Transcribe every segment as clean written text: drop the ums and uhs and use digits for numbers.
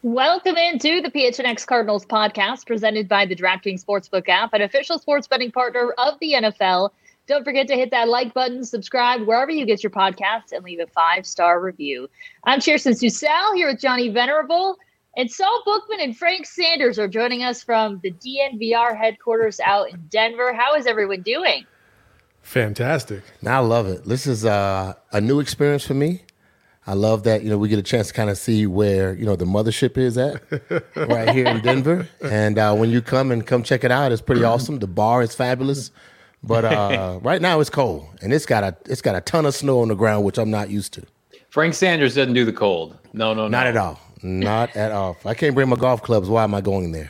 Welcome into the PHNX Cardinals podcast presented by the DraftKings Sportsbook app, an official sports betting partner of the NFL. Don't forget to hit that like button, subscribe wherever you get your podcasts, and leave a 5-star review. I'm Kirsten Susel here with Johnny Venerable, and Saul Bookman and Frank Sanders are joining us from the DNVR headquarters out in Denver. How is everyone doing? Fantastic. I love it. This is a new experience for me. I love that, we get a chance to kind of see where, the mothership is at right here in Denver. And when you come check it out, it's pretty awesome. The bar is fabulous. But right now it's cold, and it's got a ton of snow on the ground, which I'm not used to. Frank Sanders doesn't do the cold. No. Not at all. Not at all. If I can't bring my golf clubs, why am I going there?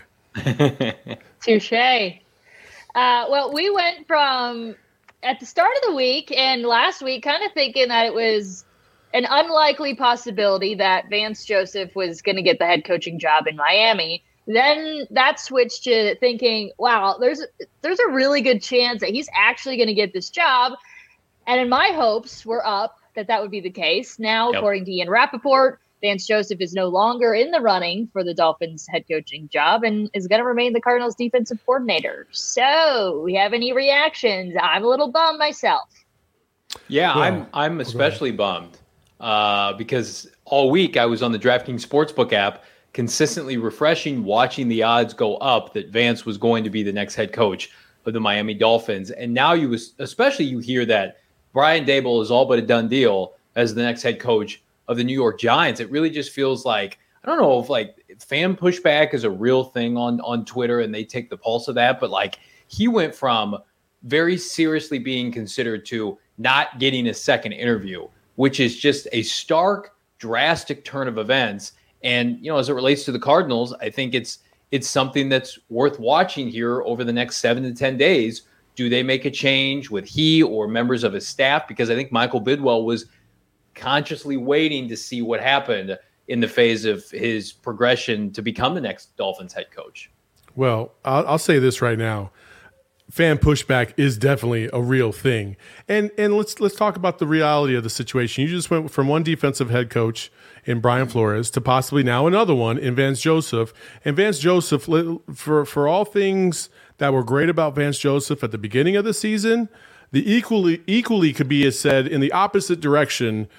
Touché. Well, we went from at the start of the week and last week kind of thinking that it was an unlikely possibility that Vance Joseph was going to get the head coaching job in Miami. Then that switched to thinking, wow, there's a really good chance that he's actually going to get this job. And in my hopes were up that would be the case. Now, According to Ian Rappaport, Vance Joseph is no longer in the running for the Dolphins head coaching job and is going to remain the Cardinals defensive coordinator. So we have any reactions? I'm a little bummed myself. Yeah, well, I'm especially bummed because all week I was on the DraftKings Sportsbook app consistently refreshing, watching the odds go up that Vance was going to be the next head coach of the Miami Dolphins. And now you hear that Brian Daboll is all but a done deal as the next head coach of the New York Giants. It really just feels like, I don't know if fan pushback is a real thing on Twitter and they take the pulse of that, but he went from very seriously being considered to not getting a second interview, which is just a stark, drastic turn of events. And, as it relates to the Cardinals, I think it's something that's worth watching here over the next 7 to 10 days. Do they make a change with he or members of his staff? Because I think Michael Bidwell was consciously waiting to see what happened in the phase of his progression to become the next Dolphins head coach. Well, I'll say this right now. Fan pushback is definitely a real thing. And let's talk about the reality of the situation. You just went from one defensive head coach in Brian Flores to possibly now another one in Vance Joseph. And Vance Joseph, for all things that were great about Vance Joseph at the beginning of the season, the equally could be said in the opposite direction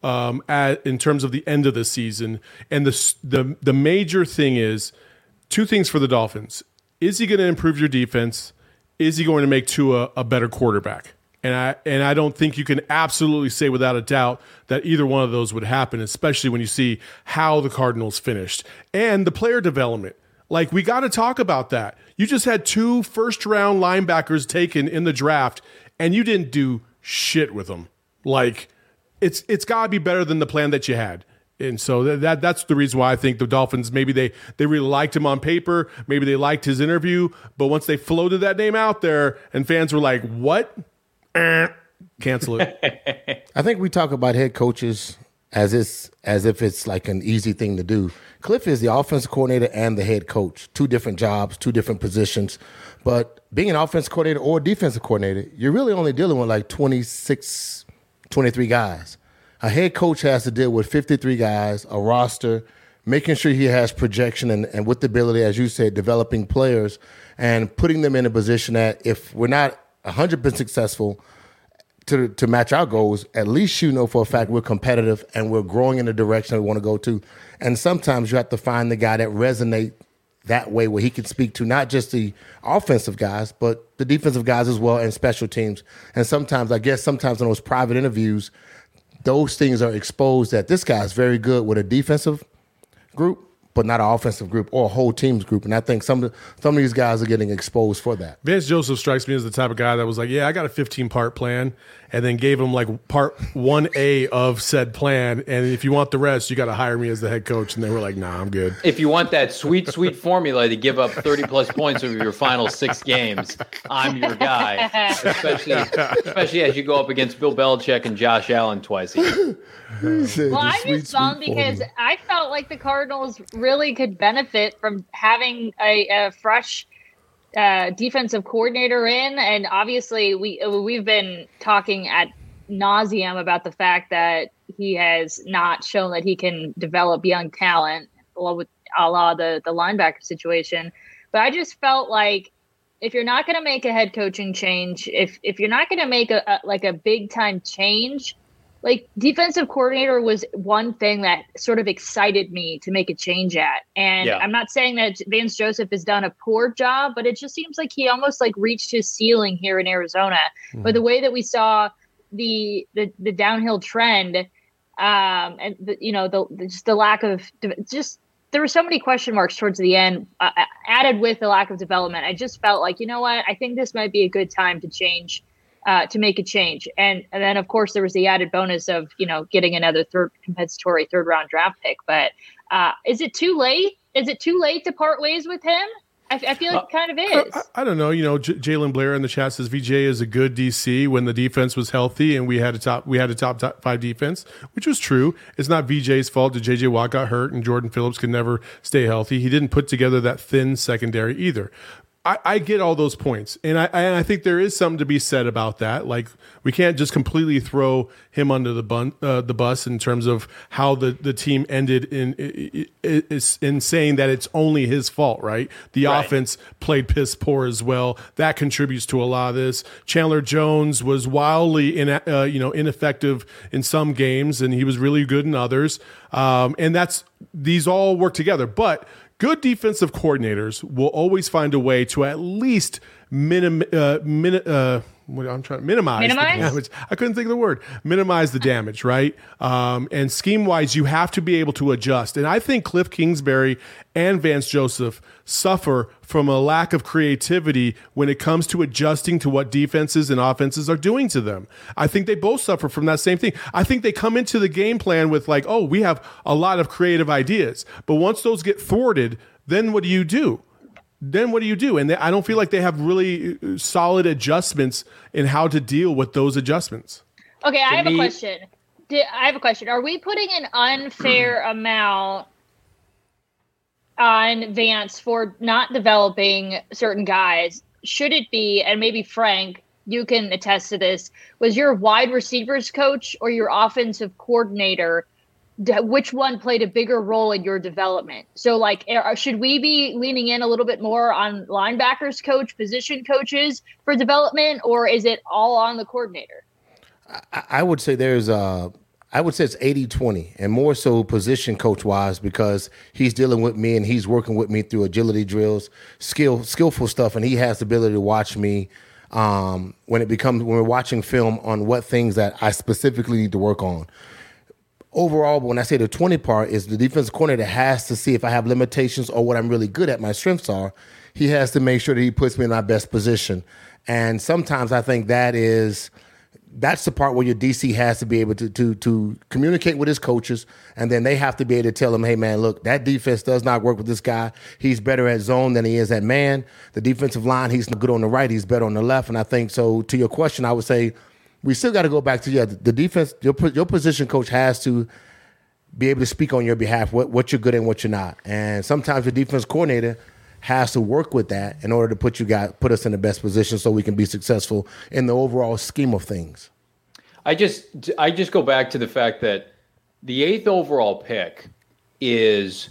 in terms of the end of the season. And the major thing is two things for the Dolphins. Is he going to improve your defense? Is he going to make Tua a better quarterback? And I don't think you can absolutely say without a doubt that either one of those would happen, especially when you see how the Cardinals finished. And the player development. We got to talk about that. You just had 2 first-round linebackers taken in the draft, and you didn't do shit with them. It's got to be better than the plan that you had. And so that's the reason why I think the Dolphins, maybe they really liked him on paper. Maybe they liked his interview. But once they floated that name out there and fans were like, what? Cancel it. I think we talk about head coaches as if it's like an easy thing to do. Cliff is the offensive coordinator and the head coach. 2 different jobs, 2 different positions. But being an offensive coordinator or defensive coordinator, you're really only dealing with 26, 23 guys. A head coach has to deal with 53 guys, a roster, making sure he has projection and with the ability, as you said, developing players and putting them in a position that if we're not 100% successful to match our goals, at least for a fact we're competitive and we're growing in the direction we want to go to. And sometimes you have to find the guy that resonates that way where he can speak to not just the offensive guys, but the defensive guys as well and special teams. And sometimes in those private interviews, those things are exposed that this guy is very good with a defensive group, but not an offensive group or a whole team's group. And I think some of these guys are getting exposed for that. Vance Joseph strikes me as the type of guy that was like, yeah, I got a 15-part plan, and then gave him part 1A of said plan. And if you want the rest, you got to hire me as the head coach. And they were like, nah, I'm good. If you want that sweet, sweet formula to give up 30-plus points over your final 6 games, I'm your guy, especially as you go up against Bill Belichick and Josh Allen twice a year. Well, I'm just bummed because I felt like the Cardinals really could benefit from having a fresh defensive coordinator in, and obviously we've been talking ad nauseum about the fact that he has not shown that he can develop young talent. Well, a la the linebacker situation. But I just felt like if you're not going to make a head coaching change, if you're not going to make a big time change, like defensive coordinator was one thing that sort of excited me to make a change at. And I'm not saying that Vance Joseph has done a poor job, but it just seems like he almost like reached his ceiling here in Arizona. Mm-hmm. But the way that we saw the downhill trend, and the lack of there were so many question marks towards the end, added with the lack of development. I just felt like, you know what, I think this might be a good time to change. To make a change. And then, of course, there was the added bonus of, getting another compensatory third round draft pick. But is it too late? Is it too late to part ways with him? I feel like it kind of is. I don't know. Jalen Blair in the chat says VJ is a good DC when the defense was healthy and we had a top 5 defense, which was true. It's not VJ's fault that JJ Watt got hurt and Jordan Phillips could never stay healthy. He didn't put together that thin secondary either. I get all those points, and I think there is something to be said about that. Like, we can't just completely throw him under the bus in terms of how the team ended in saying that it's only his fault, right? The offense played piss poor as well. That contributes to a lot of this. Chandler Jones was wildly ineffective in some games, and he was really good in others. And these all work together, but good defensive coordinators will always find a way to at least minimize the damage. I couldn't think of the word. Minimize the damage, right? And scheme-wise, you have to be able to adjust. And I think Cliff Kingsbury and Vance Joseph suffer from a lack of creativity when it comes to adjusting to what defenses and offenses are doing to them. I think they both suffer from that same thing. I think they come into the game plan with like, oh, we have a lot of creative ideas. But once those get thwarted, then what do you do? And I don't feel like they have really solid adjustments in how to deal with those adjustments. Okay, I have a question. Are we putting an unfair amount on Vance for not developing certain guys? Should it be, and maybe Frank, you can attest to this, was your wide receivers coach or your offensive coordinator, which one played a bigger role in your development? So, like, should we be leaning in a little bit more on linebackers coach, position coaches for development, or is it all on the coordinator? I would say it's 80-20, and more so position coach-wise, because he's dealing with me and he's working with me through agility drills, skillful stuff, and he has the ability to watch me when we're watching film on what things that I specifically need to work on. Overall, when I say the 20 part, is the defensive coordinator has to see if I have limitations or what I'm really good at, my strengths are. He has to make sure that he puts me in my best position. And sometimes I think that's the part where your DC has to be able to communicate with his coaches, and then they have to be able to tell him, hey, man, look, that defense does not work with this guy. He's better at zone than he is at man. The defensive line, he's good on the right. He's better on the left. And I think, so to your question, I would say, we still got to go back to the defense. Your position coach has to be able to speak on your behalf, what you're good at and what you're not. And sometimes the defense coordinator has to work with that in order to put us in the best position so we can be successful in the overall scheme of things. I just go back to the fact that the 8th overall pick is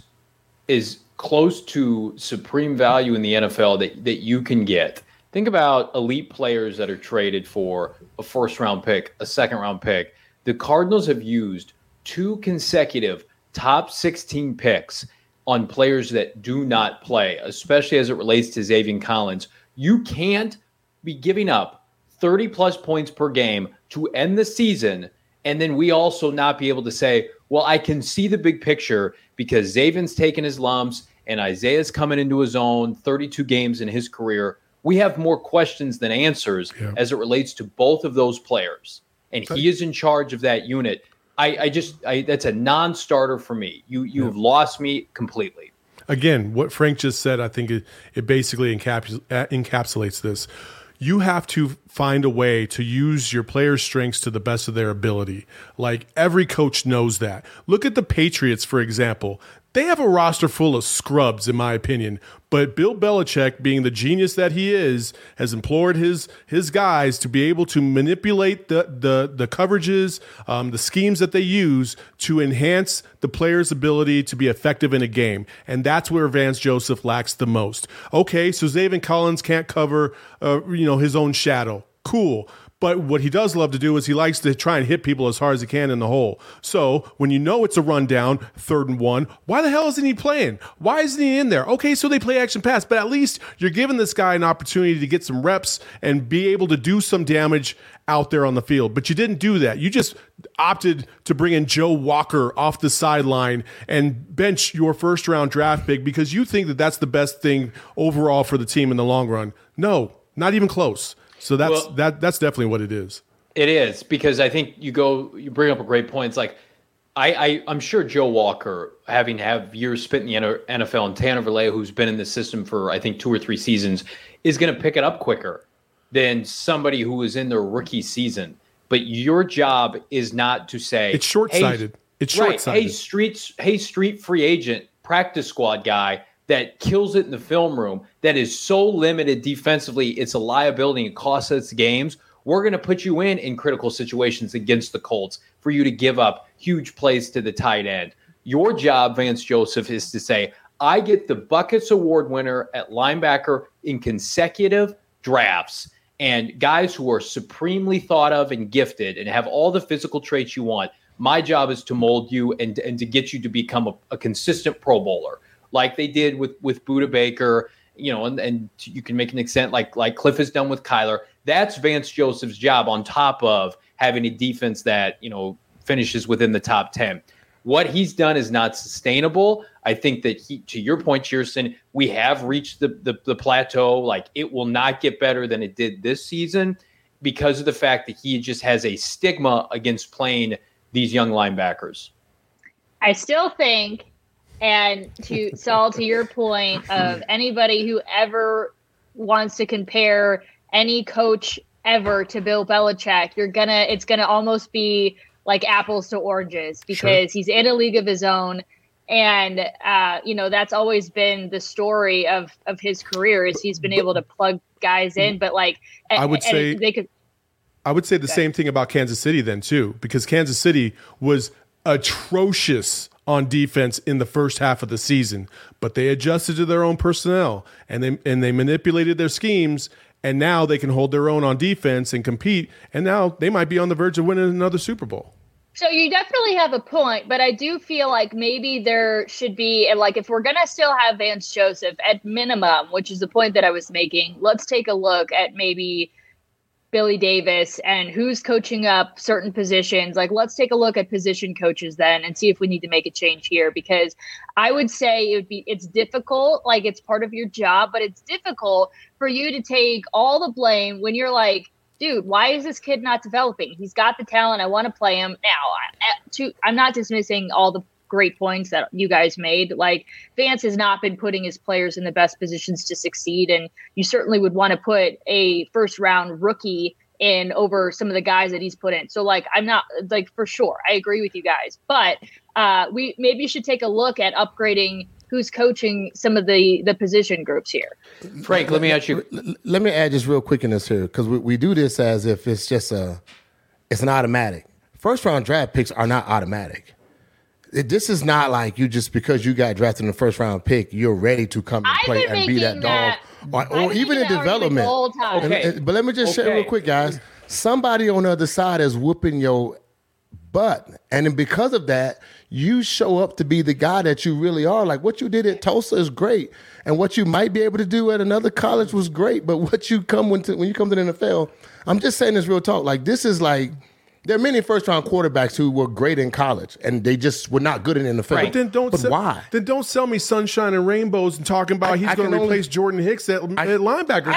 close to supreme value in the NFL that you can get. Think about elite players that are traded for a first-round pick, a second-round pick. The Cardinals have used 2 consecutive top 16 picks on players that do not play, especially as it relates to Zaven Collins. You can't be giving up 30-plus points per game to end the season, and then we also not be able to say, well, I can see the big picture because Zaven's taking his lumps and Isaiah's coming into his own, 32 games in his career. We have more questions than answers as it relates to both of those players. And he is in charge of that unit. That's a non-starter for me. You have lost me completely. Again, what Frank just said, I think it basically encapsulates this. You have to find a way to use your players' strengths to the best of their ability. Like, every coach knows that. Look at the Patriots, for example. They have a roster full of scrubs, in my opinion, But Bill Belichick, being the genius that he is, has implored his guys to be able to manipulate the coverages, the schemes that they use to enhance the player's ability to be effective in a game. And that's where Vance Joseph lacks the most. Okay, so Zaven Collins can't cover his own shadow. Cool. But what he does love to do is he likes to try and hit people as hard as he can in the hole. So when you know it's a rundown, 3rd and 1, why the hell isn't he playing? Why isn't he in there? Okay, so they play action pass, but at least you're giving this guy an opportunity to get some reps and be able to do some damage out there on the field. But you didn't do that. You just opted to bring in Joe Walker off the sideline and bench your first-round draft pick because you think that that's the best thing overall for the team in the long run. No, not even close. So that's definitely what it is. It is, because I think you bring up a great point. It's like I'm sure Joe Walker, having have years spent in the NFL, and Tanner Vallejo, who's been in the system for I think 2 or 3 seasons, is going to pick it up quicker than somebody who was in their rookie season. But your job is not to say it's short-sighted. It's short-sighted. Hey, street free agent, practice squad guy that kills it in the film room, that is so limited defensively, it's a liability and costs us games. We're going to put you in critical situations against the Colts for you to give up huge plays to the tight end. Your job, Vance Joseph, is to say, I get the Buckets Award winner at linebacker in consecutive drafts, and guys who are supremely thought of and gifted and have all the physical traits you want. My job is to mold you and to get you to become a consistent Pro Bowler, like they did with Budda Baker, and you can make an extent like Cliff has done with Kyler. That's Vance Joseph's job, on top of having a defense that, finishes within the top 10. What he's done is not sustainable. I think that to your point, Chierstin, we have reached the plateau. Like, it will not get better than it did this season because of the fact that he just has a stigma against playing these young linebackers. I still think, and to Saul, to your point of anybody who ever wants to compare any coach ever to Bill Belichick, it's gonna almost be like apples to oranges, because he's in a league of his own. And, that's always been the story of his career, is he's been able to plug guys in. But I would say the same thing about Kansas City then too, because Kansas City was atrocious on defense in the first half of the season, but they adjusted to their own personnel and they manipulated their schemes, and now they can hold their own on defense and compete, and now they might be on the verge of winning another Super Bowl. So you definitely have a point, but I do feel like maybe there should be, if we're going to still have Vance Joseph at minimum, which is the point that I was making, let's take a look at maybe Billy Davis and who's coaching up certain positions. Let's take a look at position coaches then and see if we need to make a change here, because I would say it's difficult. It's part of your job, but it's difficult for you to take all the blame when you're like, dude, why is this kid not developing? He's got the talent. I want to play him. Now, I'm not dismissing all the great points that you guys made. Vance has not been putting his players in the best positions to succeed, and you certainly would want to put a first-round rookie in over some of the guys that he's put in. So, I'm not, for sure, I agree with you guys. But we maybe should take a look at upgrading who's coaching some of the position groups here. Frank, let me ask you. Let me add just real quick in this here, because we do this as if it's just it's an automatic. First-round draft picks are not automatic. This is not like you just, because you got drafted in the first-round pick, you're ready to come and play and be that dog. Or even in development. Okay. But let me just share real quick, guys. Somebody on the other side is whooping your butt. And then because of that, you show up to be the guy that you really are. What you did at Tulsa is great. And what you might be able to do at another college was great. But what you come when you come to the NFL, I'm just saying this real talk. This is there are many first-round quarterbacks who were great in college, and they just were not good in the NFL. Right. But why? Then don't sell me sunshine and rainbows and talking about he's going to replace Jordan Hicks at linebacker.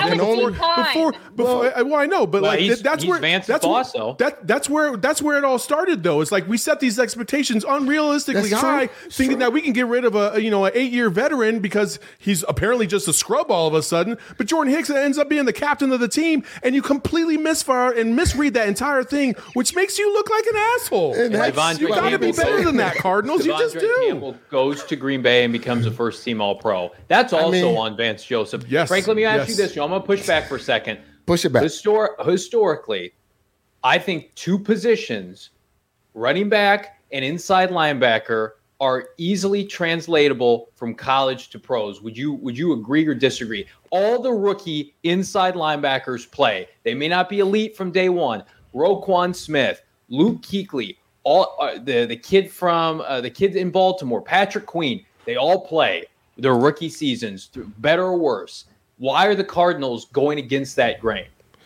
I know, but that's where Vance's boss, though. That's where it all started, though. It's we set these expectations unrealistically high, thinking that we can get rid of an 8-year veteran because he's apparently just a scrub all of a sudden. But Jordan Hicks ends up being the captain of the team, and you completely misfire and misread that entire thing, which makes you look like an asshole. And Like, Devondre you got to be Campbell better goes- than that, Cardinals. You just Devondre do. Campbell goes to Green Bay and becomes a first-team All-Pro. That's also on Vance Joseph. Yes, Frank, let me ask yes. you this. I'm going to push back for a second. Push it back. Historically, I think two positions, running back and inside linebacker, are easily translatable from college to pros. Would you agree or disagree? All the rookie inside linebackers play. They may not be elite from day one. Roquan Smith, Luke Kuechly, all the kid from the kid in Baltimore, Patrick Queen. They all play their rookie seasons, better or worse. Why are the Cardinals going against that grain?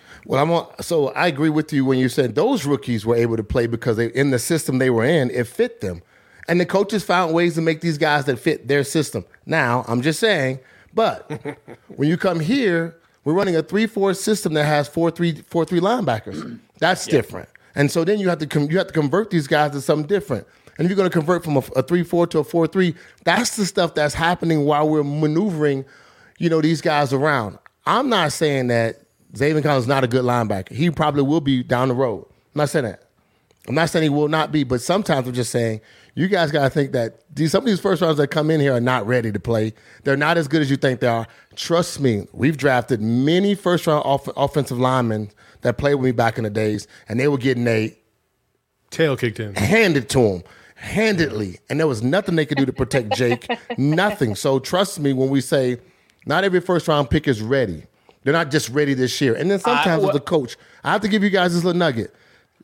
Well, so I agree with you when you said those rookies were able to play because in the system they were in, it fit them. And the coaches found ways to make these guys that fit their system. Now, I'm just saying, but when you come here, we're running a 3-4 system that has 4-3 linebackers. That's different. And so then you have to convert these guys to something different. And if you're going to convert from a 3-4 to a 4-3, that's the stuff that's happening while we're maneuvering, these guys around. I'm not saying that Zaven Collins is not a good linebacker. He probably will be down the road. I'm not saying that. I'm not saying he will not be, but sometimes I'm just saying you guys got to think that some of these first rounds that come in here are not ready to play. They're not as good as you think they are. Trust me, we've drafted many first-round offensive linemen that played with me back in the days, and they were getting a Tail kicked in. handed to them, handedly, and there was nothing they could do to protect Jake, nothing. So trust me when we say not every first-round pick is ready. They're not just ready this year. And then sometimes as a coach, I have to give you guys this little nugget.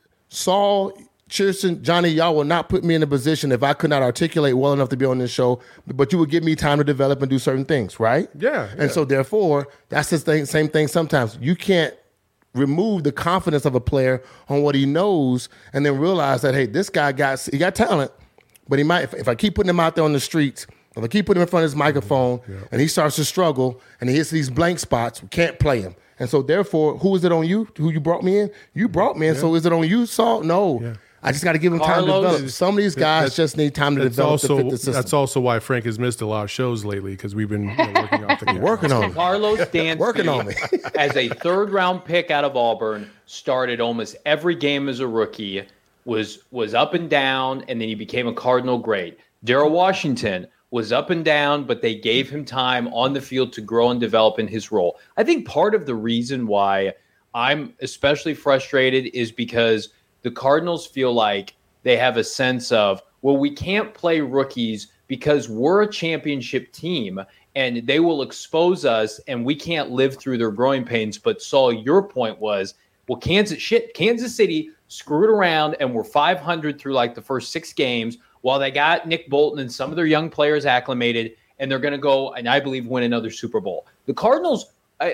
Saul, Cheerson, Johnny, y'all will not put me in a position if I could not articulate well enough to be on this show, but you would give me time to develop and do certain things, right? Yeah. And so therefore, that's the same thing sometimes. You can't remove the confidence of a player on what he knows and then realize that, hey, this guy got talent, but he might, if I keep putting him out there on the streets, if I keep putting him in front of his microphone and he starts to struggle and he hits these blank spots, we can't play him. And so therefore, who is it on you? Who you brought me in? You brought me in. So is it on you, Saul? No. Yeah. I just got to give him time to develop. Some of these guys just need time to develop to fit the system. That's also why Frank has missed a lot of shows lately because we've been working off the camera. Working on me. Carlos Dansby, working on me. as a third-round pick out of Auburn, started almost every game as a rookie, was up and down, and then he became a Cardinal great. Darrell Washington was up and down, but they gave him time on the field to grow and develop in his role. I think part of the reason why I'm especially frustrated is because the Cardinals feel like they have a sense of, well, we can't play rookies because we're a championship team and they will expose us and we can't live through their growing pains. But Saul, your point was, well, Kansas City screwed around and were 500 through like the first 6 games while they got Nick Bolton and some of their young players acclimated, and they're going to go and I believe win another Super Bowl. The Cardinals,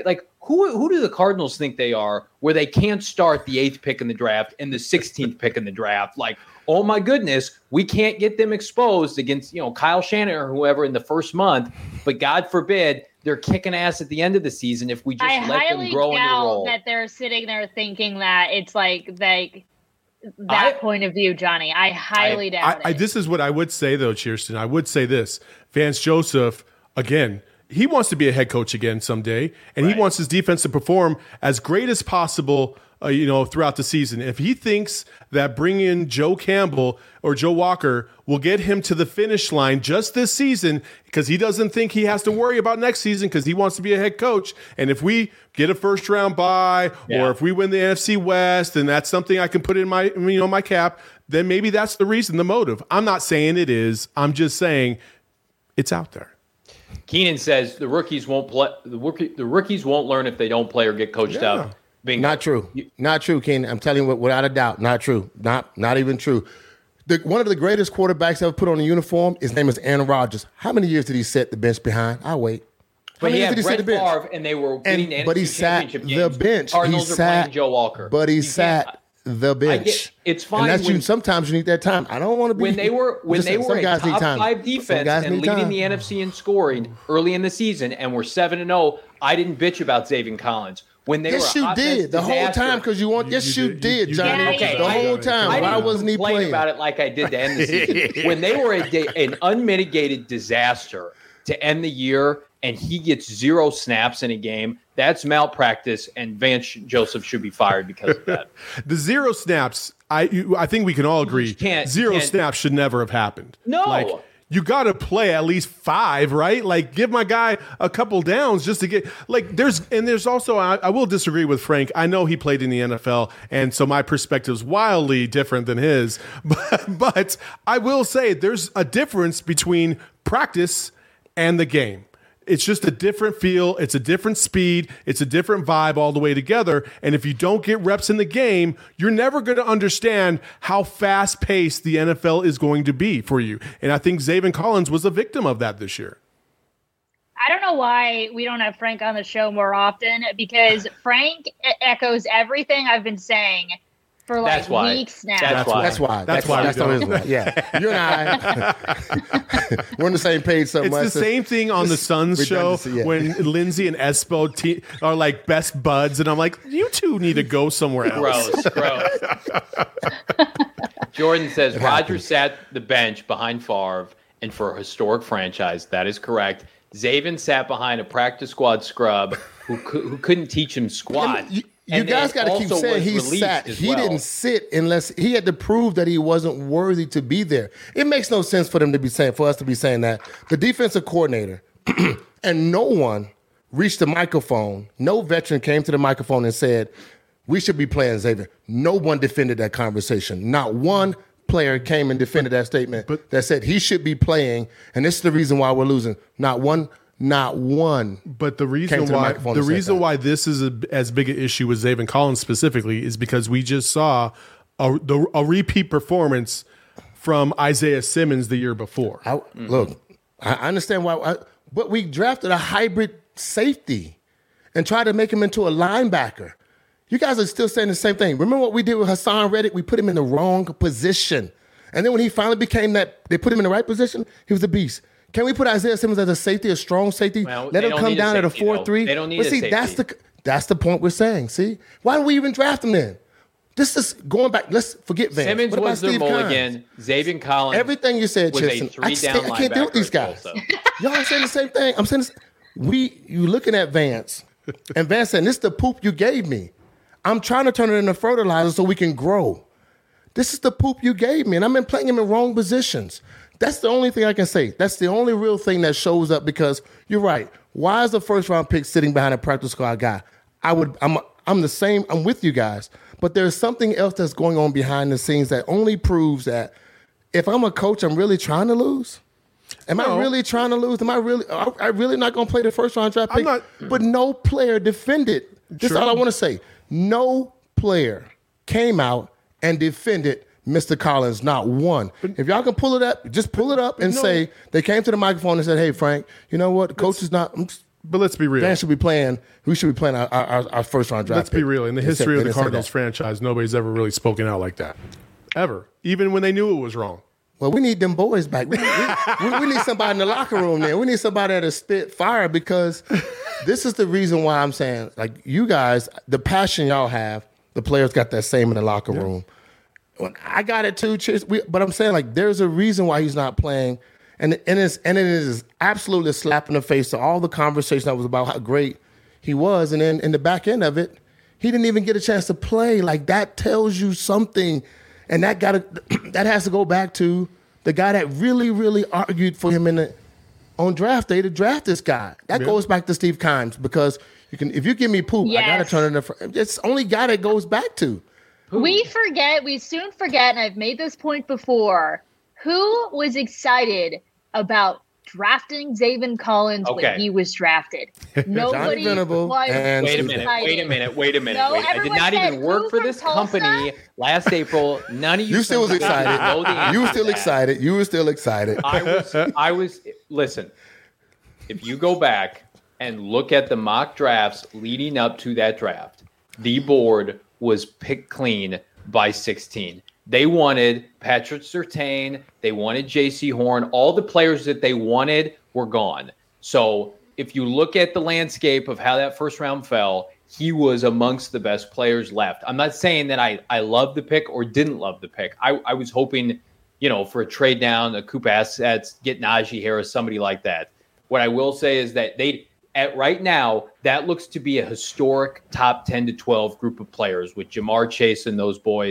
who do the Cardinals think they are where they can't start the 8th pick in the draft and the 16th pick in the draft? Like, oh my goodness, we can't get them exposed against, Kyle Shanahan or whoever in the first month, but God forbid they're kicking ass at the end of the season if we just let them grow in the role. That they're sitting there thinking that it's like that point of view, Johnny. I highly doubt it. This is what I would say, though, Cheerston. I would say this. Vance Joseph, again, he wants to be a head coach again someday, and he wants his defense to perform as great as possible, throughout the season. If he thinks that bringing in Joe Campbell or Joe Walker will get him to the finish line just this season, because he doesn't think he has to worry about next season because he wants to be a head coach, and if we get a first-round bye or if we win the NFC West, and that's something I can put in my my cap, then maybe that's the reason, the motive. I'm not saying it is. I'm just saying it's out there. Keenan says the rookies won't play. The rookies won't learn if they don't play or get coached up. Bingo. Not true. Not true, Keenan. I'm telling you without a doubt. Not true. Not even true. One of the greatest quarterbacks ever put on a uniform, his name is Aaron Rodgers. How many years did he set the bench behind? I'll wait. But he had Brett Favre, and they were getting the NFC Championship games. The bench. Cardinals are playing Joe Walker. But he sat the bench. It's fine. And that's sometimes you need that time. I don't want to be. When they were a top 5 defense and leading the NFC in scoring early in the season, and were 7-0, I didn't bitch about Zaven Collins. When they yes, were you did the whole time because you want. Yes, you did, Johnny. The whole time. Why wasn't he playing about it like I did to end the season? When they were an unmitigated disaster to end the year, and he gets 0 snaps in a game, that's malpractice, and Vance Joseph should be fired because of that. The 0 snaps, I think we can all agree zero snaps should never have happened. No. You got to play at least 5, right? Like, give my guy a couple downs just to get like. There's also I will disagree with Frank. I know he played in the NFL, and so my perspective is wildly different than his. But I will say there's a difference between practice and the game. It's just a different feel. It's a different speed. It's a different vibe all the way together. And if you don't get reps in the game, you're never going to understand how fast paced the NFL is going to be for you. And I think Zaven Collins was a victim of that this year. I don't know why we don't have Frank on the show more often, because Frank echoes everything I've been saying for like weeks now. That's why. Yeah. You and I, we're on the same page so much. It's the same thing on the Suns show when Lindsay and Espo are like best buds, and I'm like, you two need to go somewhere else. Gross. Jordan says Rodgers sat the bench behind Favre, and for a historic franchise, that is correct. Zaven sat behind a practice squad scrub who couldn't teach him squat. You guys got to keep saying he sat. He didn't sit unless he had to prove that he wasn't worthy to be there. It makes no sense for us to be saying that. The defensive coordinator and no one reached the microphone. No veteran came to the microphone and said, we should be playing Xavier. No one defended that conversation. Not one player came and defended that statement that said he should be playing, and this is the reason why we're losing. Not one. But the reason why this is as big an issue with Zaven Collins specifically is because we just saw a repeat performance from Isaiah Simmons the year before. Look, I understand why, but we drafted a hybrid safety and tried to make him into a linebacker. You guys are still saying the same thing. Remember what we did with Hassan Reddick? We put him in the wrong position. And then when he finally became that, they put him in the right position, he was a beast. Can we put Isaiah Simmons as a safety, a strong safety? Well, let him come down at a 4-3. They don't need a safety. That's the point we're saying. See? Why do we even draft him then? This is going back. Let's forget Vance. Simmons was their mulligan. Zaven Collins. Everything you said, Chilson. I can't deal with these guys. Y'all are saying the same thing. I'm saying this. You looking at Vance, and Vance saying, this is the poop you gave me. I'm trying to turn it into fertilizer so we can grow. This is the poop you gave me, and I've been playing him in wrong positions. That's the only thing I can say. That's the only real thing that shows up, because you're right. Why is the first round pick sitting behind a practice squad guy? I'm the same. I'm with you guys. But there's something else that's going on behind the scenes that only proves that if I'm a coach, I'm really trying to lose. I really trying to lose? Am I really not going to play the first round draft pick? But no player defended. This is all I want to say. No player came out and defended Mr. Collins, not one. If y'all can pull it up, just pull it up and say they came to the microphone and said, hey, Frank, you know what? The coach is not. But let's be real. We should be playing our first round draft. Let's be real. In the history of the Cardinals franchise, nobody's ever really spoken out like that. Ever. Even when they knew it was wrong. Well, we need them boys back. We need somebody in the locker room there. We need somebody that'll spit fire, because this is the reason why I'm saying, like, you guys, the passion y'all have, the players got that same in the locker room. I got it too, but I'm saying, like, there's a reason why he's not playing, and it is absolutely a slap in the face to all the conversation that was about how great he was, and then in the back end of it, he didn't even get a chance to play. Like, that tells you something, and that has to go back to the guy that really, really argued for him on draft day to draft this guy. That goes back to Steve Kimes, because if you give me poop, I got to turn it into. It's the only guy that goes back to. We soon forget, and I've made this point before, who was excited about drafting Zaven Collins when he was drafted? Nobody was. Wait a minute. No, I did not even work for this company last April. None of you. You still was excited. You were still excited. You were still excited. I was. Listen, if you go back and look at the mock drafts leading up to that draft, the board was picked clean by 16. They wanted Patrick Surtain. They wanted J.C. Horn. All the players that they wanted were gone. So if you look at the landscape of how that first round fell, he was amongst the best players left. I'm not saying that I love the pick or didn't love the pick. I was hoping, for a trade down, a coup assets, get Najee Harris, somebody like that. What I will say is that right now, that looks to be a historic top 10 to 12 group of players with Jamar Chase and those boys.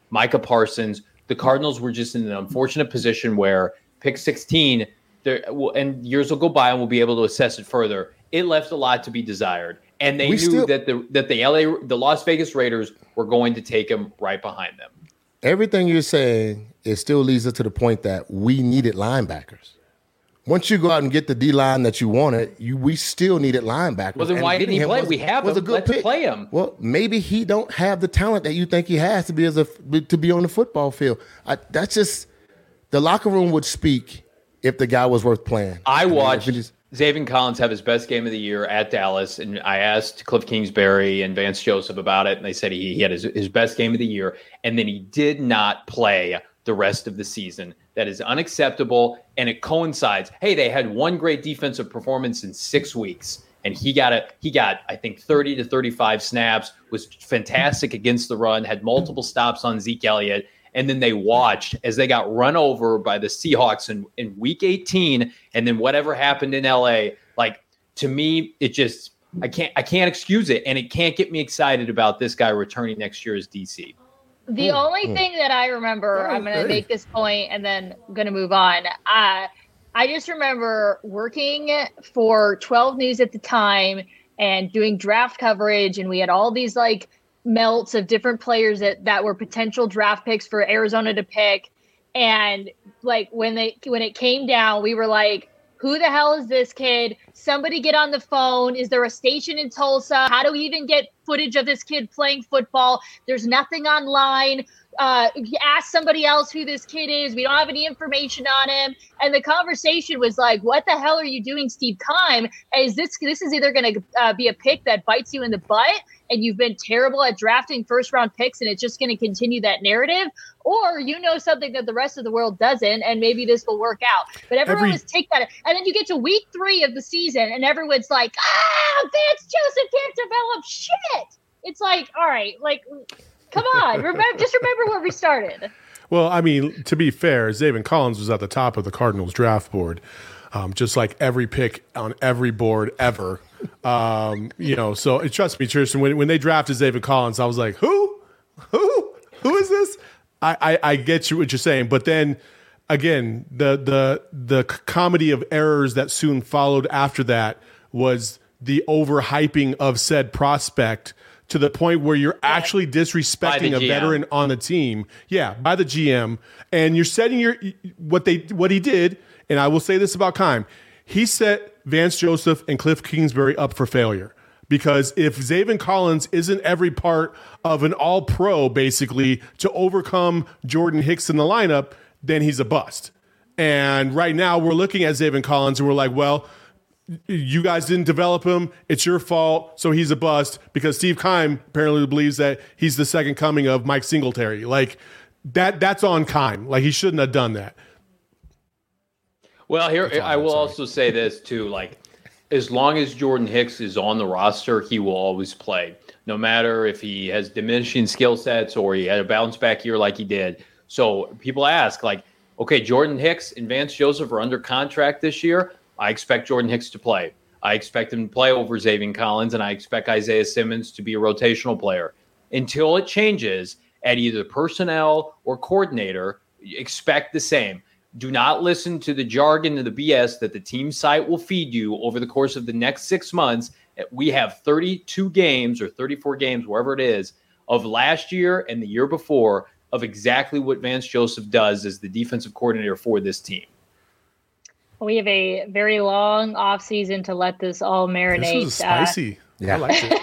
Micah Parsons. The Cardinals were just in an unfortunate position where pick 16, and years will go by and we'll be able to assess it further. It left a lot to be desired. And they knew that the Las Vegas Raiders were going to take him right behind them. Everything you're saying, it still leads us to the point that we needed linebackers. Once you go out and get the D-line that you wanted, we still needed linebackers. Well, then why didn't he play? We have him. Let's play him. Well, maybe he don't have the talent that you think he has to be on the football field. That's just the locker room would speak if the guy was worth playing. I watched Zaven Collins have his best game of the year at Dallas, and I asked Cliff Kingsbury and Vance Joseph about it, and they said he had his best game of the year, and then he did not play the rest of the season. That is unacceptable, and it coincides. Hey, they had one great defensive performance in 6 weeks, and he got I think 30 to 35 snaps, was fantastic against the run, had multiple stops on Zeke Elliott, and then they watched as they got run over by the Seahawks in week 18, and then whatever happened in LA. Like, to me, it just I can't excuse it, and it can't get me excited about this guy returning next year as DC. The only thing that I remember, I'm going to make this point and then I'm going to move on. I just remember working for 12 News at the time and doing draft coverage, and we had all these like melts of different players that were potential draft picks for Arizona to pick. And like when it came down, we were like, who the hell is this kid? Somebody get on the phone. Is there a station in Tulsa? How do we even get footage of this kid playing football? There's nothing online. Ask somebody else who this kid is. We don't have any information on him. And the conversation was like, what the hell are you doing, Steve Keim? This is either going to be a pick that bites you in the butt and you've been terrible at drafting first-round picks and it's just going to continue that narrative, or you know something that the rest of the world doesn't, and maybe this will work out. But everyone was take that. And then you get to week 3 of the season, and everyone's like, Vance Joseph can't develop shit. It's like, all right, like, come on. Remember where we started. Well, I mean, to be fair, Zaven Collins was at the top of the Cardinals draft board, just like every pick on every board ever. So trust me, Tristan, when they drafted Zaven Collins, I was like, who is this? I get you what you're saying, but then again, the comedy of errors that soon followed after that was the overhyping of said prospect to the point where you're actually disrespecting a veteran on the team. Yeah, by the GM, and you're setting what he did. And I will say this about Keim: he set Vance Joseph and Cliff Kingsbury up for failure. Because if Zaven Collins isn't every part of an all-pro, basically, to overcome Jordan Hicks in the lineup, then he's a bust. And right now we're looking at Zaven Collins and we're like, well, you guys didn't develop him. It's your fault. So he's a bust because Steve Keim apparently believes that he's the second coming of Mike Singletary. Like that's on Keim. Like he shouldn't have done that. Well, here I will also say this too, like, as long as Jordan Hicks is on the roster, he will always play, no matter if he has diminishing skill sets or he had a bounce back year like he did. So people ask, like, okay, Jordan Hicks and Vance Joseph are under contract this year. I expect Jordan Hicks to play. I expect him to play over Zaven Collins, and I expect Isaiah Simmons to be a rotational player. Until it changes at either personnel or coordinator, expect the same. Do not listen to the jargon and the BS that the team site will feed you over the course of the next 6 months. We have 32 games or 34 games, wherever it is, of last year and the year before of exactly what Vance Joseph does as the defensive coordinator for this team. We have a very long offseason to let this all marinate. This was spicy. I liked it.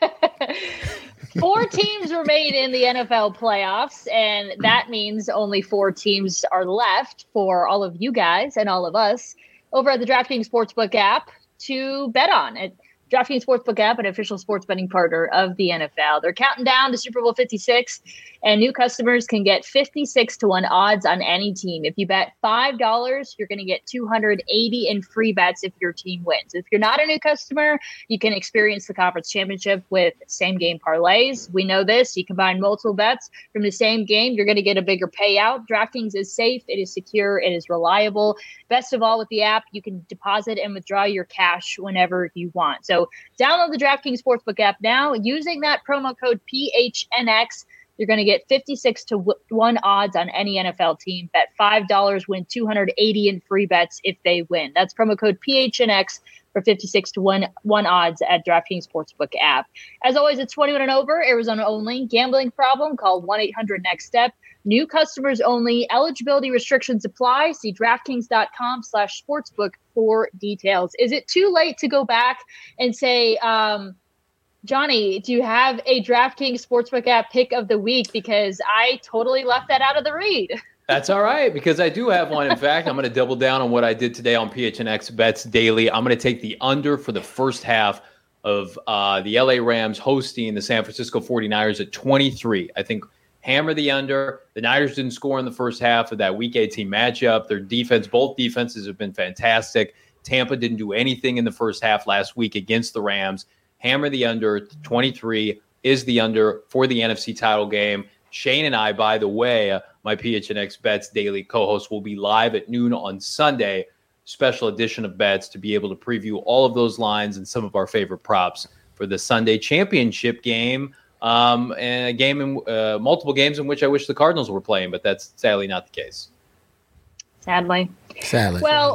4 teams remain in the NFL playoffs, and that means only 4 teams are left for all of you guys and all of us over at the DraftKings Sportsbook app to bet on. DraftKings Sportsbook app, an official sports betting partner of the NFL. They're counting down to Super Bowl 56, and new customers can get 56-1 odds on any team. If you bet $5, you're going to get $280 in free bets if your team wins. If you're not a new customer, you can experience the conference championship with same-game parlays. We know this. You combine multiple bets from the same game, you're going to get a bigger payout. DraftKings is safe. It is secure. It is reliable. Best of all, with the app, you can deposit and withdraw your cash whenever you want. So download the DraftKings Sportsbook app now using that promo code PHNX. You're going to get 56 to 1 odds on any NFL team. Bet $5, win $280 in free bets if they win. That's promo code PHNX for 56 to 1 odds at DraftKings Sportsbook app. As always, it's 21 and over, Arizona only. Gambling problem? Call 1-800-NEXT-STEP. New customers only. Eligibility restrictions apply. See DraftKings.com/sportsbook for details. Is it too late to go back and say, Johnny, do you have a DraftKings Sportsbook app pick of the week? Because I totally left that out of the read. That's all right, because I do have one. In fact, I'm going to double down on what I did today on PHNX Bets Daily. I'm going to take the under for the first half of the LA Rams hosting the San Francisco 49ers at 23. I think hammer the under. The Niners didn't score in the first half of that Week 18 matchup. Their defense, both defenses have been fantastic. Tampa didn't do anything in the first half last week against the Rams. Hammer the under. 23 is the under for the NFC title game. Shane and I, by the way, my PHNX Bets Daily co-host, will be live at noon on Sunday. Special edition of Bets to be able to preview all of those lines and some of our favorite props for the Sunday championship game. And a game in multiple games in which I wish the Cardinals were playing, but that's sadly not the case. Sadly. Well,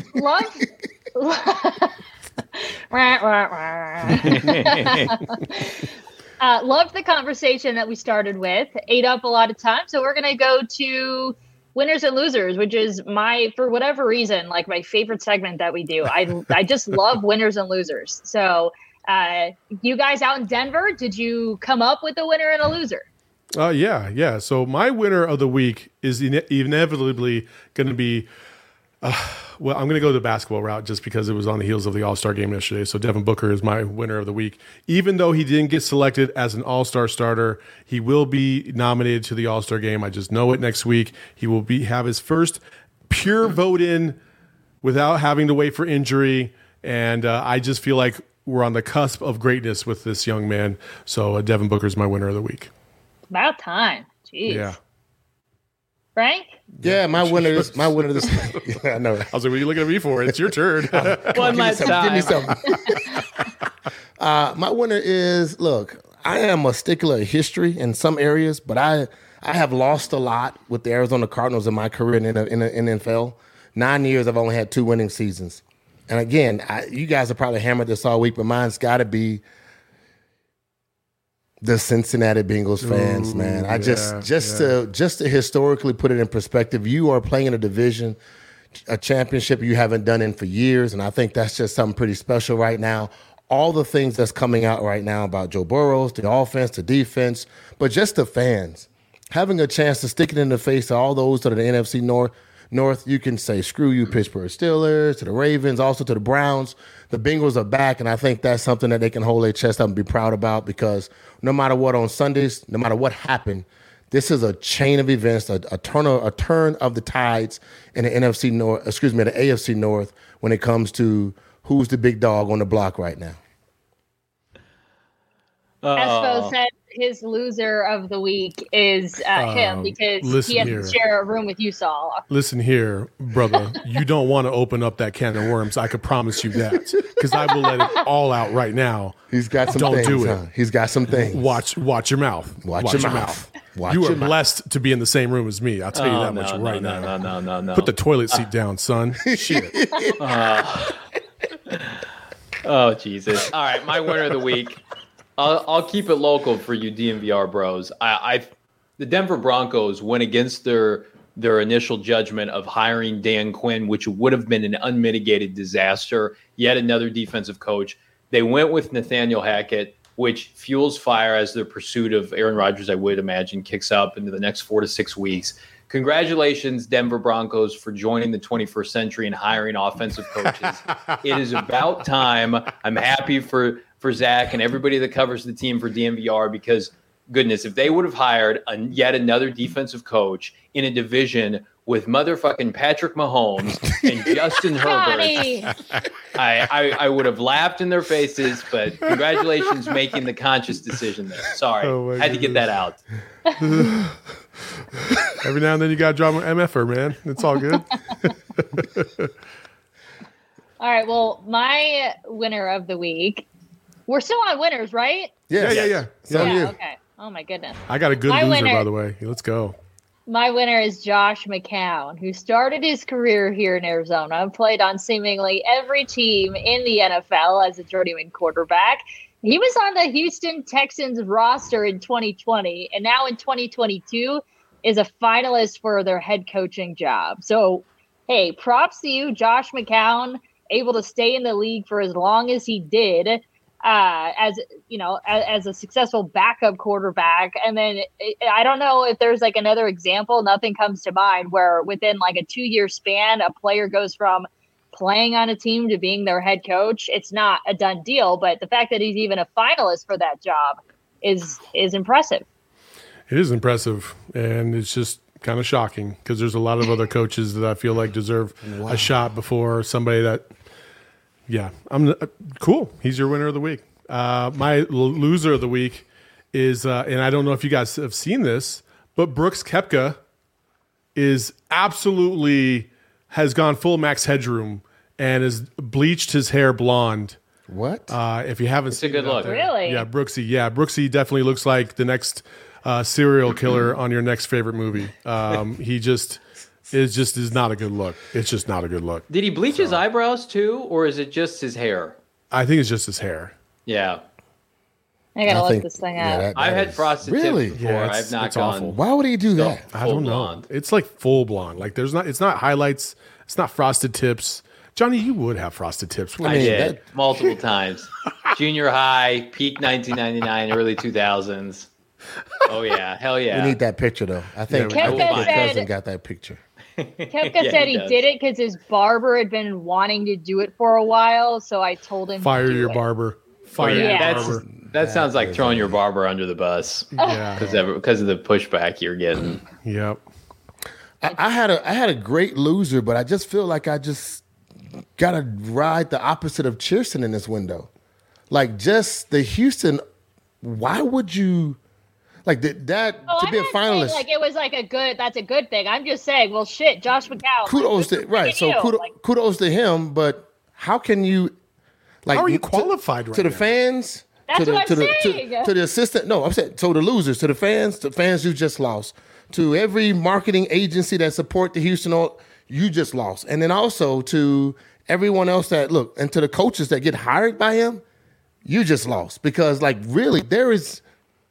loved the conversation that we started with. Ate up a lot of time, so we're gonna go to winners and losers, which is for whatever reason, like my favorite segment that we do. I just love winners and losers. So. You guys out in Denver, did you come up with a winner and a loser? Yeah. So my winner of the week is inevitably going to be, I'm going to go the basketball route just because it was on the heels of the All-Star game yesterday. So Devin Booker is my winner of the week. Even though he didn't get selected as an All-Star starter, he will be nominated to the All-Star game. I just know it next week. He will have his first pure vote in without having to wait for injury. And I just feel like we're on the cusp of greatness with this young man. So Devin Booker is my winner of the week. About time. Jeez. Yeah. Frank? Yeah, my winner this I know. I was like, what are you looking at me for? It's your turn. One last time. Give me something. My winner is, look, I am a stickler of history in some areas, but I have lost a lot with the Arizona Cardinals in my career in the NFL. 9 years, I've only had 2 winning seasons. And again, you guys have probably hammered this all week, but mine's got to be the Cincinnati Bengals fans, man. To historically put it in perspective, you are playing in a division, a championship you haven't done in for years, and I think that's just something pretty special right now. All the things that's coming out right now about Joe Burrow, the offense, the defense, but just the fans having a chance to stick it in the face of all those that are the NFC North, you can say, screw you, Pittsburgh Steelers, to the Ravens, also to the Browns. The Bengals are back, and I think that's something that they can hold their chest up and be proud about because no matter what on Sundays, no matter what happened, this is a chain of events, a turn of the tides in the NFC North, the AFC North when it comes to who's the big dog on the block right now. Espo said his loser of the week is him because he has to share a room with you, Saul. Listen here, brother. You don't want to open up that can of worms. I could promise you that because I will let it all out right now. He's got some things. Don't do it. He's got some things. Watch your mouth. Watch your mouth. You are blessed to be in the same room as me. I'll tell you that much right now. No. Put the toilet seat down, son. Shit. Oh, Jesus. All right, my winner of the week. I'll keep it local for you DNVR bros. The Denver Broncos went against their initial judgment of hiring Dan Quinn, which would have been an unmitigated disaster. Yet another defensive coach. They went with Nathaniel Hackett, which fuels fire as their pursuit of Aaron Rodgers, I would imagine, kicks up into the next 4 to 6 weeks. Congratulations, Denver Broncos, for joining the 21st century and hiring offensive coaches. It is about time. I'm happy for Zach and everybody that covers the team for DNVR because, goodness, if they would have hired yet another defensive coach in a division with motherfucking Patrick Mahomes and Justin Herbert, I would have laughed in their faces, but congratulations making the conscious decision there. Sorry. Had to get that out. Every now and then you got to drop an MFer, man. It's all good. All right, well, my winner of the week, we're still on winners, right? Yeah. So yeah, okay. Oh my goodness. I got a good My loser, winner- by the way. Let's go. My winner is Josh McCown, who started his career here in Arizona, played on seemingly every team in the NFL as a journeyman quarterback. He was on the Houston Texans roster in 2020, and now in 2022 is a finalist for their head coaching job. So, hey, props to you, Josh McCown, able to stay in the league for as long as he did. As a successful backup quarterback. And then I don't know if there's like another example, nothing comes to mind, where within like a 2-year span, a player goes from playing on a team to being their head coach. It's not a done deal, but the fact that he's even a finalist for that job is impressive. It is impressive, and it's just kind of shocking because there's a lot of other coaches that I feel like deserve a shot before somebody that. Yeah, I'm cool. He's your winner of the week. My loser of the week is, and I don't know if you guys have seen this, but Brooks Koepka is absolutely has gone full Max Headroom and has bleached his hair blonde. What? If you haven't seen a good look. Really? Yeah, Brooksy. Yeah, Brooksy definitely looks like the next serial killer on your next favorite movie. He just is not a good look. It's just not a good look. Did he bleach his eyebrows too, or is it just his hair? I think it's just his hair. Yeah. I gotta look this thing up. I've had frosted Really? tips before. Yeah, I've not it's gone. awful. Why would he do that? I don't know. blonde. It's like full blonde. Like it's not highlights. It's not frosted tips. Johnny, you would have frosted tips. I did multiple times. Junior high, peak 1999, early 2000s. Oh yeah, hell yeah. We need that picture though. I think Koepka my said- cousin got that picture. Koepka Yeah, said he he does. did it because his barber had been wanting to do it for a while, so I told him Fire to do your it. barber. Oh, Fire yeah, your Yeah. barber. that sounds like throwing your barber under the bus Yeah. because of the pushback you're getting. Yep. I had a great loser, but I just feel like I just gotta ride the opposite of Cheerson in this window. Like just the Houston. Why would you like that Oh, to be a I'm not saying, finalist? like it was like that's a good thing. I'm just saying, well, shit, Josh McCown. Kudos like, to right. So you. kudos to him. But how can you? Like, How are you to- qualified right to the now? fans? That's to the, what I'm to the, saying. to the assistant. No, I'm saying so the losers, to the fans you just lost, to every marketing agency that support the Houston, you just lost, and then also to everyone else that look, and to the coaches that get hired by him, you just lost because like really there is.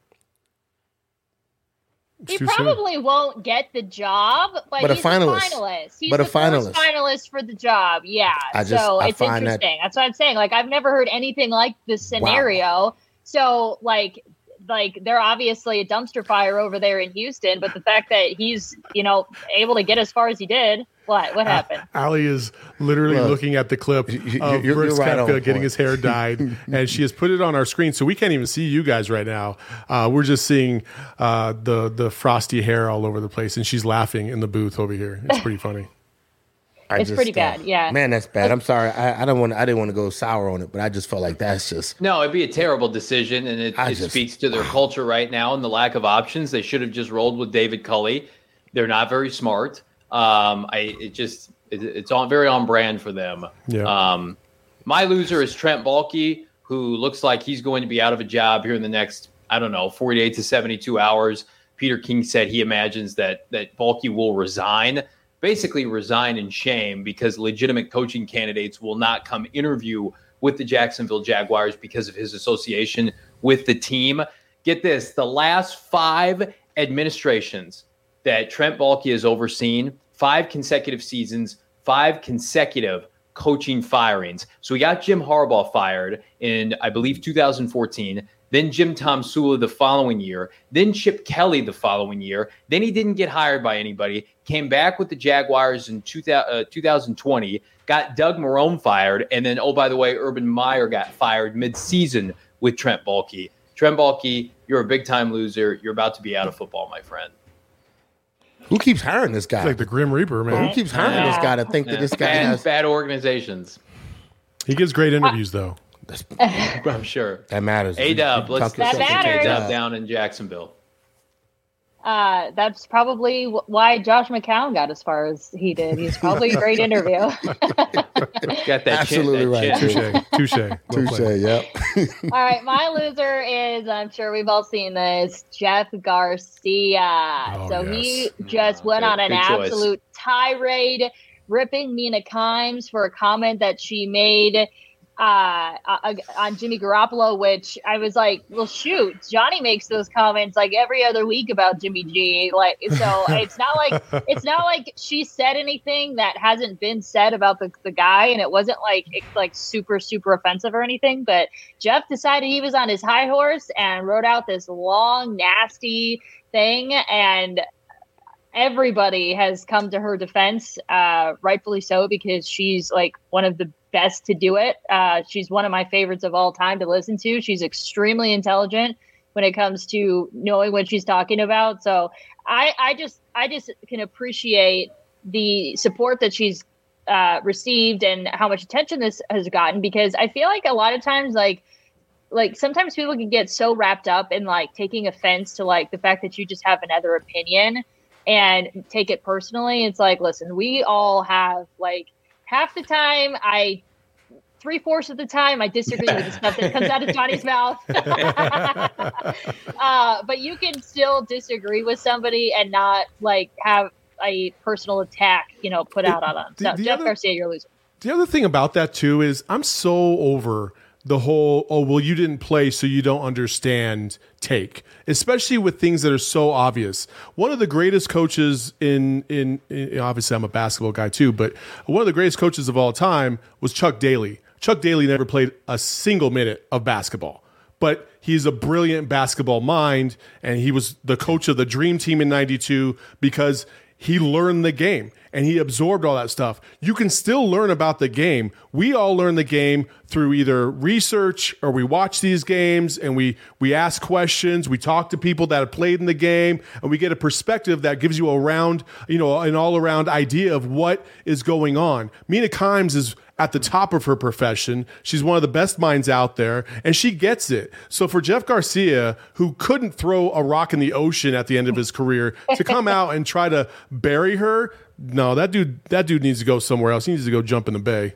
He too soon. probably won't get the job, but a he's finalist. a finalist. He's But a the first finalist. finalist for the job. Yeah. I it's find that- interesting. That's what I'm saying. Like I've never heard anything like this scenario. So like they're obviously a dumpster fire over there in Houston, but the fact that he's, able to get as far as he did, what happened? Allie is literally Look, looking at the clip of you're Brooks right on Koepka getting point. his hair dyed, and she has put it on our screen, so we can't even see you guys right now. We're just seeing the frosty hair all over the place, and she's laughing in the booth over here. It's pretty funny. It's pretty bad, yeah. Man, that's bad. I'm sorry. I didn't want to go sour on it, but I just felt like that's just. No, it'd be a terrible decision, and it speaks to their culture right now and the lack of options. They should have just rolled with David Culley. They're not very smart. It's on very on brand for them. Yeah. My loser is Trent Baalke, who looks like he's going to be out of a job here in the next, 48 to 72 hours. Peter King said he imagines that Baalke will resign in shame because legitimate coaching candidates will not come interview with the Jacksonville Jaguars because of his association with the team. Get this, the last 5 administrations that Trent Baalke has overseen, 5 consecutive seasons, 5 consecutive coaching firings. So we got Jim Harbaugh fired in, I believe, 2014. Then Jim Tomsula the following year. Then Chip Kelly the following year. Then he didn't get hired by anybody. Came back with the Jaguars in 2020. Got Doug Marrone fired. And then, oh, by the way, Urban Meyer got fired mid-season with Trent Baalke. Trent Baalke, you're a big-time loser. You're about to be out of football, my friend. Who keeps hiring this guy? It's like the Grim Reaper, man. Who keeps hiring this guy to think that this guy has? Bad organizations. He gives great interviews, though. I'm sure. That matters. A-Dub, let's That take matters. A-Dub down in Jacksonville. That's probably why Josh McCown got as far as he did. He's probably a great interview. Got that Absolutely right. Touche. Yep. All right, my loser is, I'm sure we've all seen this, Jeff Garcia. He just went on an absolute tirade, ripping Mina Kimes for a comment that she made on Jimmy Garoppolo, which I was like, well, shoot, Johnny makes those comments like every other week about Jimmy G. Like, so it's not like she said anything that hasn't been said about the guy, and it wasn't like super offensive or anything. But Jeff decided he was on his high horse and wrote out this long, nasty thing, and everybody has come to her defense, rightfully so, because she's like one of the best to do it. She's one of my favorites of all time to listen to. She's extremely intelligent when it comes to knowing what she's talking about. So I just can appreciate the support that she's received and how much attention this has gotten, because I feel like a lot of times, like sometimes people can get so wrapped up in like taking offense to like the fact that you just have another opinion and take it personally. It's like, listen, we all have like half the time, 3/4 of the time, I disagree with the stuff that comes out of Johnny's mouth. But you can still disagree with somebody and not like have a personal attack, put out on them. So Jeff Garcia, you're a loser. The other thing about that too is I'm so over the whole, oh, well, you didn't play, so you don't understand take, especially with things that are so obvious. One of the greatest coaches in obviously I'm a basketball guy too, but one of the greatest coaches of all time was Chuck Daly. Chuck Daly never played a single minute of basketball, but he's a brilliant basketball mind, and he was the coach of the Dream Team in '92 because he learned the game and he absorbed all that stuff. You can still learn about the game. We all learn the game through either research or we watch these games and we ask questions. We talk to people that have played in the game, and we get a perspective that gives you an all around idea of what is going on. Mina Kimes is at the top of her profession. She's one of the best minds out there, and she gets it. So for Jeff Garcia, who couldn't throw a rock in the ocean at the end of his career, to come out and try to bury her, no, that dude needs to go somewhere else. He needs to go jump in the bay.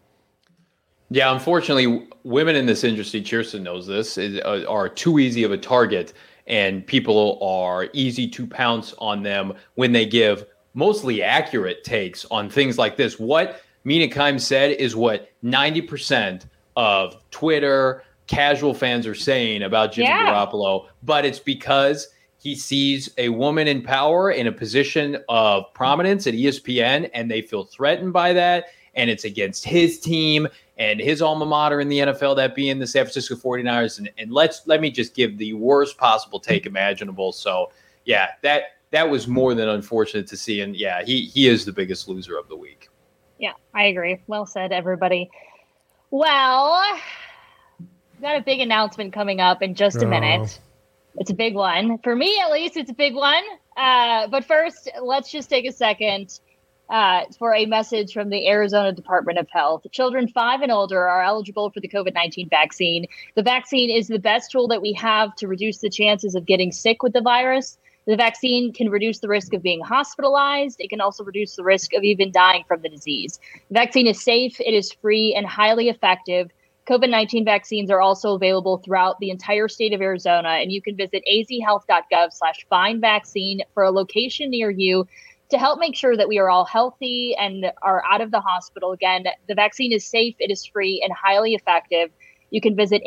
Yeah, unfortunately, women in this industry, Kirsten knows this, are too easy of a target, and people are easy to pounce on them when they give mostly accurate takes on things like this. What Mina Kimes said is what 90% of Twitter casual fans are saying about Jimmy Garoppolo, but it's because he sees a woman in power in a position of prominence at ESPN, and they feel threatened by that, and it's against his team and his alma mater in the NFL, that being the San Francisco 49ers. And let me just give the worst possible take imaginable. So, yeah, that was more than unfortunate to see, and yeah, he is the biggest loser of the week. Yeah, I agree. Well said, everybody. Well, we've got a big announcement coming up in just a minute. It's a big one. For me, at least, it's a big one. But first, let's just take a second for a message from the Arizona Department of Health. Children 5 and older are eligible for the COVID-19 vaccine. The vaccine is the best tool that we have to reduce the chances of getting sick with the virus. The vaccine can reduce the risk of being hospitalized. It can also reduce the risk of even dying from the disease. The vaccine is safe, it is free, and highly effective. COVID-19 vaccines are also available throughout the entire state of Arizona, and you can visit azhealth.gov/findvaccine for a location near you to help make sure that we are all healthy and are out of the hospital. Again, the vaccine is safe, it is free, and highly effective. You can visit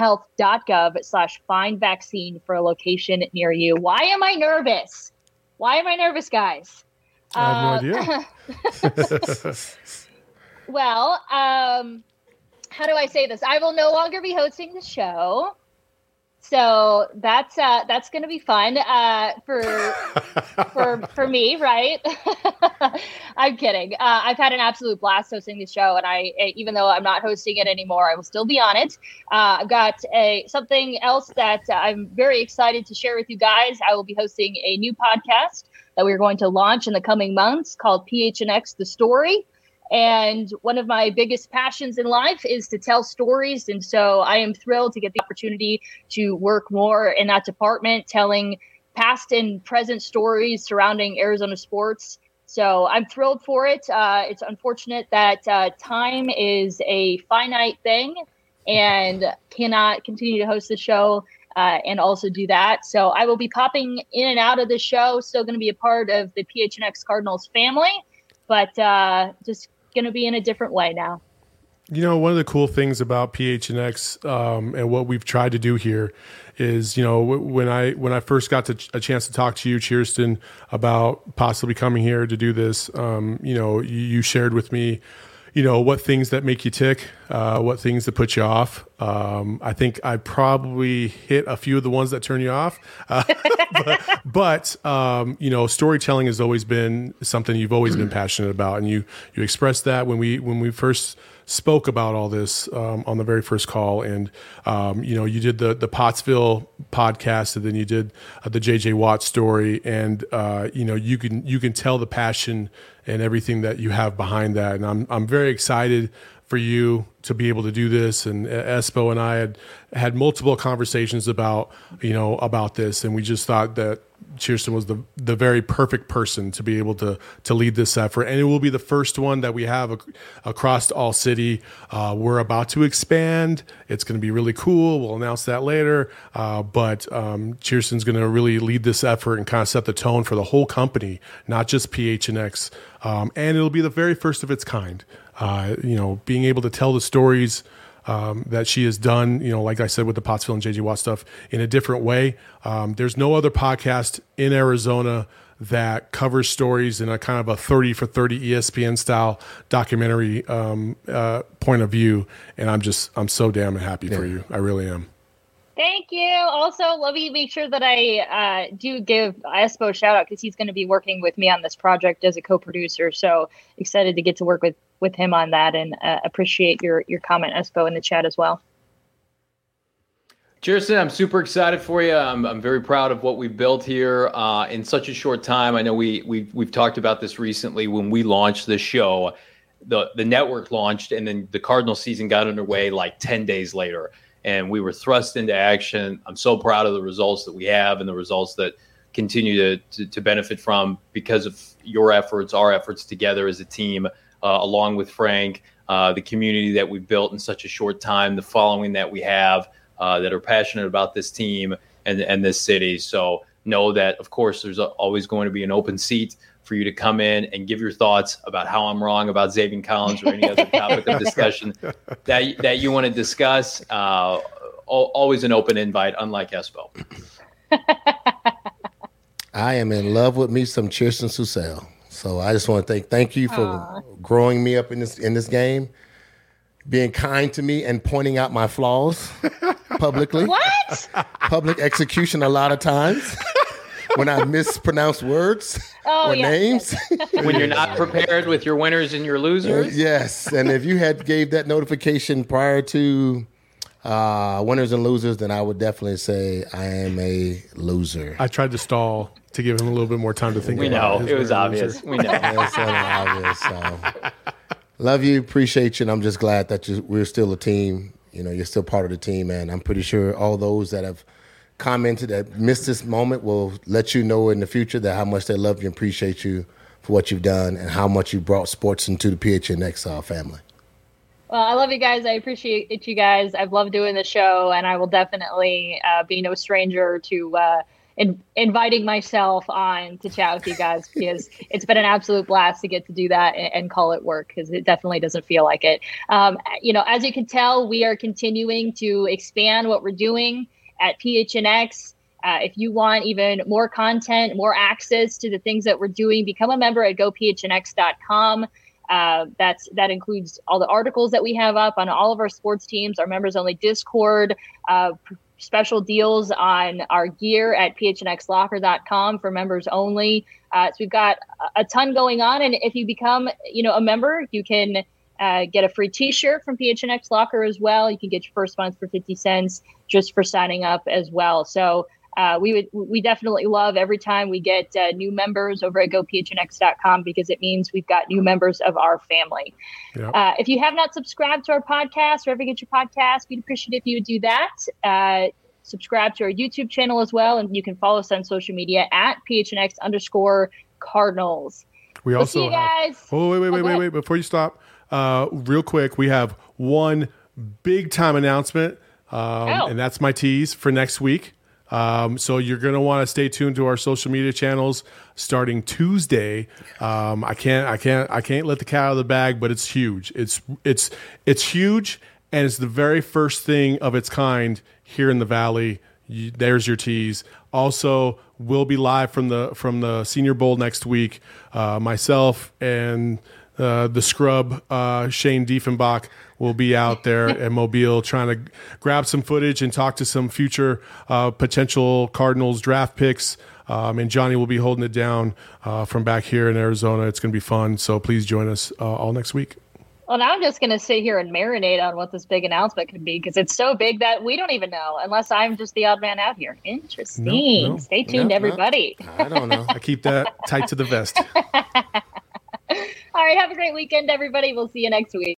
azhealth.gov/findvaccine for a location near you. Why am I nervous? Guys? I have no idea. Well, how do I say this? I will no longer be hosting the show. So that's going to be fun for me, right? I'm kidding. I've had an absolute blast hosting the show, and even though I'm not hosting it anymore, I will still be on it. I've got something else that I'm very excited to share with you guys. I will be hosting a new podcast that we're going to launch in the coming months called PHNX The Story. And one of my biggest passions in life is to tell stories. And so I am thrilled to get the opportunity to work more in that department, telling past and present stories surrounding Arizona sports. So I'm thrilled for it. It's unfortunate that time is a finite thing and cannot continue to host the show and also do that. So I will be popping in and out of the show, still going to be a part of the PHNX Cardinals family, but just going to be in a different way now. You know, one of the cool things about PHNX and what we've tried to do here is, you know, when I first got a chance to talk to you, Chierstin, about possibly coming here to do this, you know, you shared with me, you know, what things that make you tick, what things that put you off. I think I probably hit a few of the ones that turn you off. But you know, storytelling has always been something you've always been passionate about. And you expressed that when we first spoke about all this on the very first call. And, you know, you did the Pottsville podcast, and then you did the JJ Watt story. And, you know, you can tell the passion and everything that you have behind that. And I'm very excited for you to be able to do this. And Espo and I had multiple conversations about this. And we just thought that Chierstin was the very perfect person to be able to lead this effort. And it will be the first one that we have across all city. We're about to expand. It's going to be really cool. We'll announce that later. But Chierstin's going to really lead this effort and kind of set the tone for the whole company, not just PHNX. And it'll be the very first of its kind. You know, being able to tell the stories that she has done, you know, like I said, with the Pottsville and JJ Watt stuff in a different way. There's no other podcast in Arizona that covers stories in a kind of a 30 for 30 ESPN style documentary point of view. And I'm so damn happy for you. I really am. Thank you. Also, let me make sure that I do give Espo a shout out, because he's going to be working with me on this project as a co-producer. So excited to get to work with him on that, and appreciate your comment, Espo, in the chat as well. Chierstin, I'm super excited for you. I'm very proud of what we've built here in such a short time. I know we've talked about this recently when we launched this show. The network launched, and then the Cardinal season got underway like 10 days later. And we were thrust into action. I'm so proud of the results that we have and the results that continue to benefit from because of your efforts, our efforts together as a team, along with Frank, the community that we've built in such a short time, the following that we have that are passionate about this team and this city. So know that, of course, there's always going to be an open seat for you to come in and give your thoughts about how I'm wrong about Zaven Collins or any other topic of discussion that you want to discuss. Always an open invite, unlike Espo. I am in love with me some Chierstin Susel. So I just want to thank you for growing me up in this game, being kind to me and pointing out my flaws publicly. What? Public execution a lot of times. When I mispronounce words or names. When you're not prepared with your winners and your losers. Yes. And if you had gave that notification prior to winners and losers, then I would definitely say I am a loser. I tried to stall to give him a little bit more time to think about it. We know. It was obvious. We know. It's obvious. So. Love you. Appreciate you. And I'm just glad that we're still a team. You know, you're still part of the team. And I'm pretty sure all those that have commented that missed this moment will let you know in the future that how much they love you and appreciate you for what you've done and how much you brought sports into the PHNX family. Well, I love you guys. I appreciate you guys. I've loved doing the show, and I will definitely be no stranger to inviting myself on to chat with you guys, because it's been an absolute blast to get to do that and call it work, because it definitely doesn't feel like it. You know, as you can tell, we are continuing to expand what we're doing at PHNX. If you want even more content, more access to the things that we're doing, become a member at gophnx.com. That includes all the articles that we have up on all of our sports teams, our members only Discord, special deals on our gear at phnxlocker.com for members only. So we've got a ton going on. And if you become, a member, you can get a free t-shirt from PHNX Locker as well. You can get your first month for 50 cents just for signing up as well. So we definitely love every time we get new members over at gophnx.com, because it means we've got new members of our family. Yep. If you have not subscribed to our podcast, wherever you get your podcast, we'd appreciate if you would do that. subscribe to our YouTube channel as well. And you can follow us on social media at PHNX_Cardinals. We We'll see also you guys. wait. Before you stop, real quick, we have one big time announcement, and that's my tease for next week. So you're going to want to stay tuned to our social media channels starting Tuesday. I can't let the cat out of the bag, but it's huge. It's huge, and it's the very first thing of its kind here in the Valley. There's your tease. Also, we'll be live from the Senior Bowl next week. Myself and the scrub Shane Diefenbach will be out there at Mobile trying to grab some footage and talk to some future potential Cardinals draft picks. And Johnny will be holding it down from back here in Arizona. It's going to be fun. So please join us all next week. Well, now I'm just going to sit here and marinate on what this big announcement could be because it's so big that we don't even know unless I'm just the odd man out here. Interesting. No. Stay tuned, everybody. I don't know. I keep that tight to the vest. All right. Have a great weekend, everybody. We'll see you next week.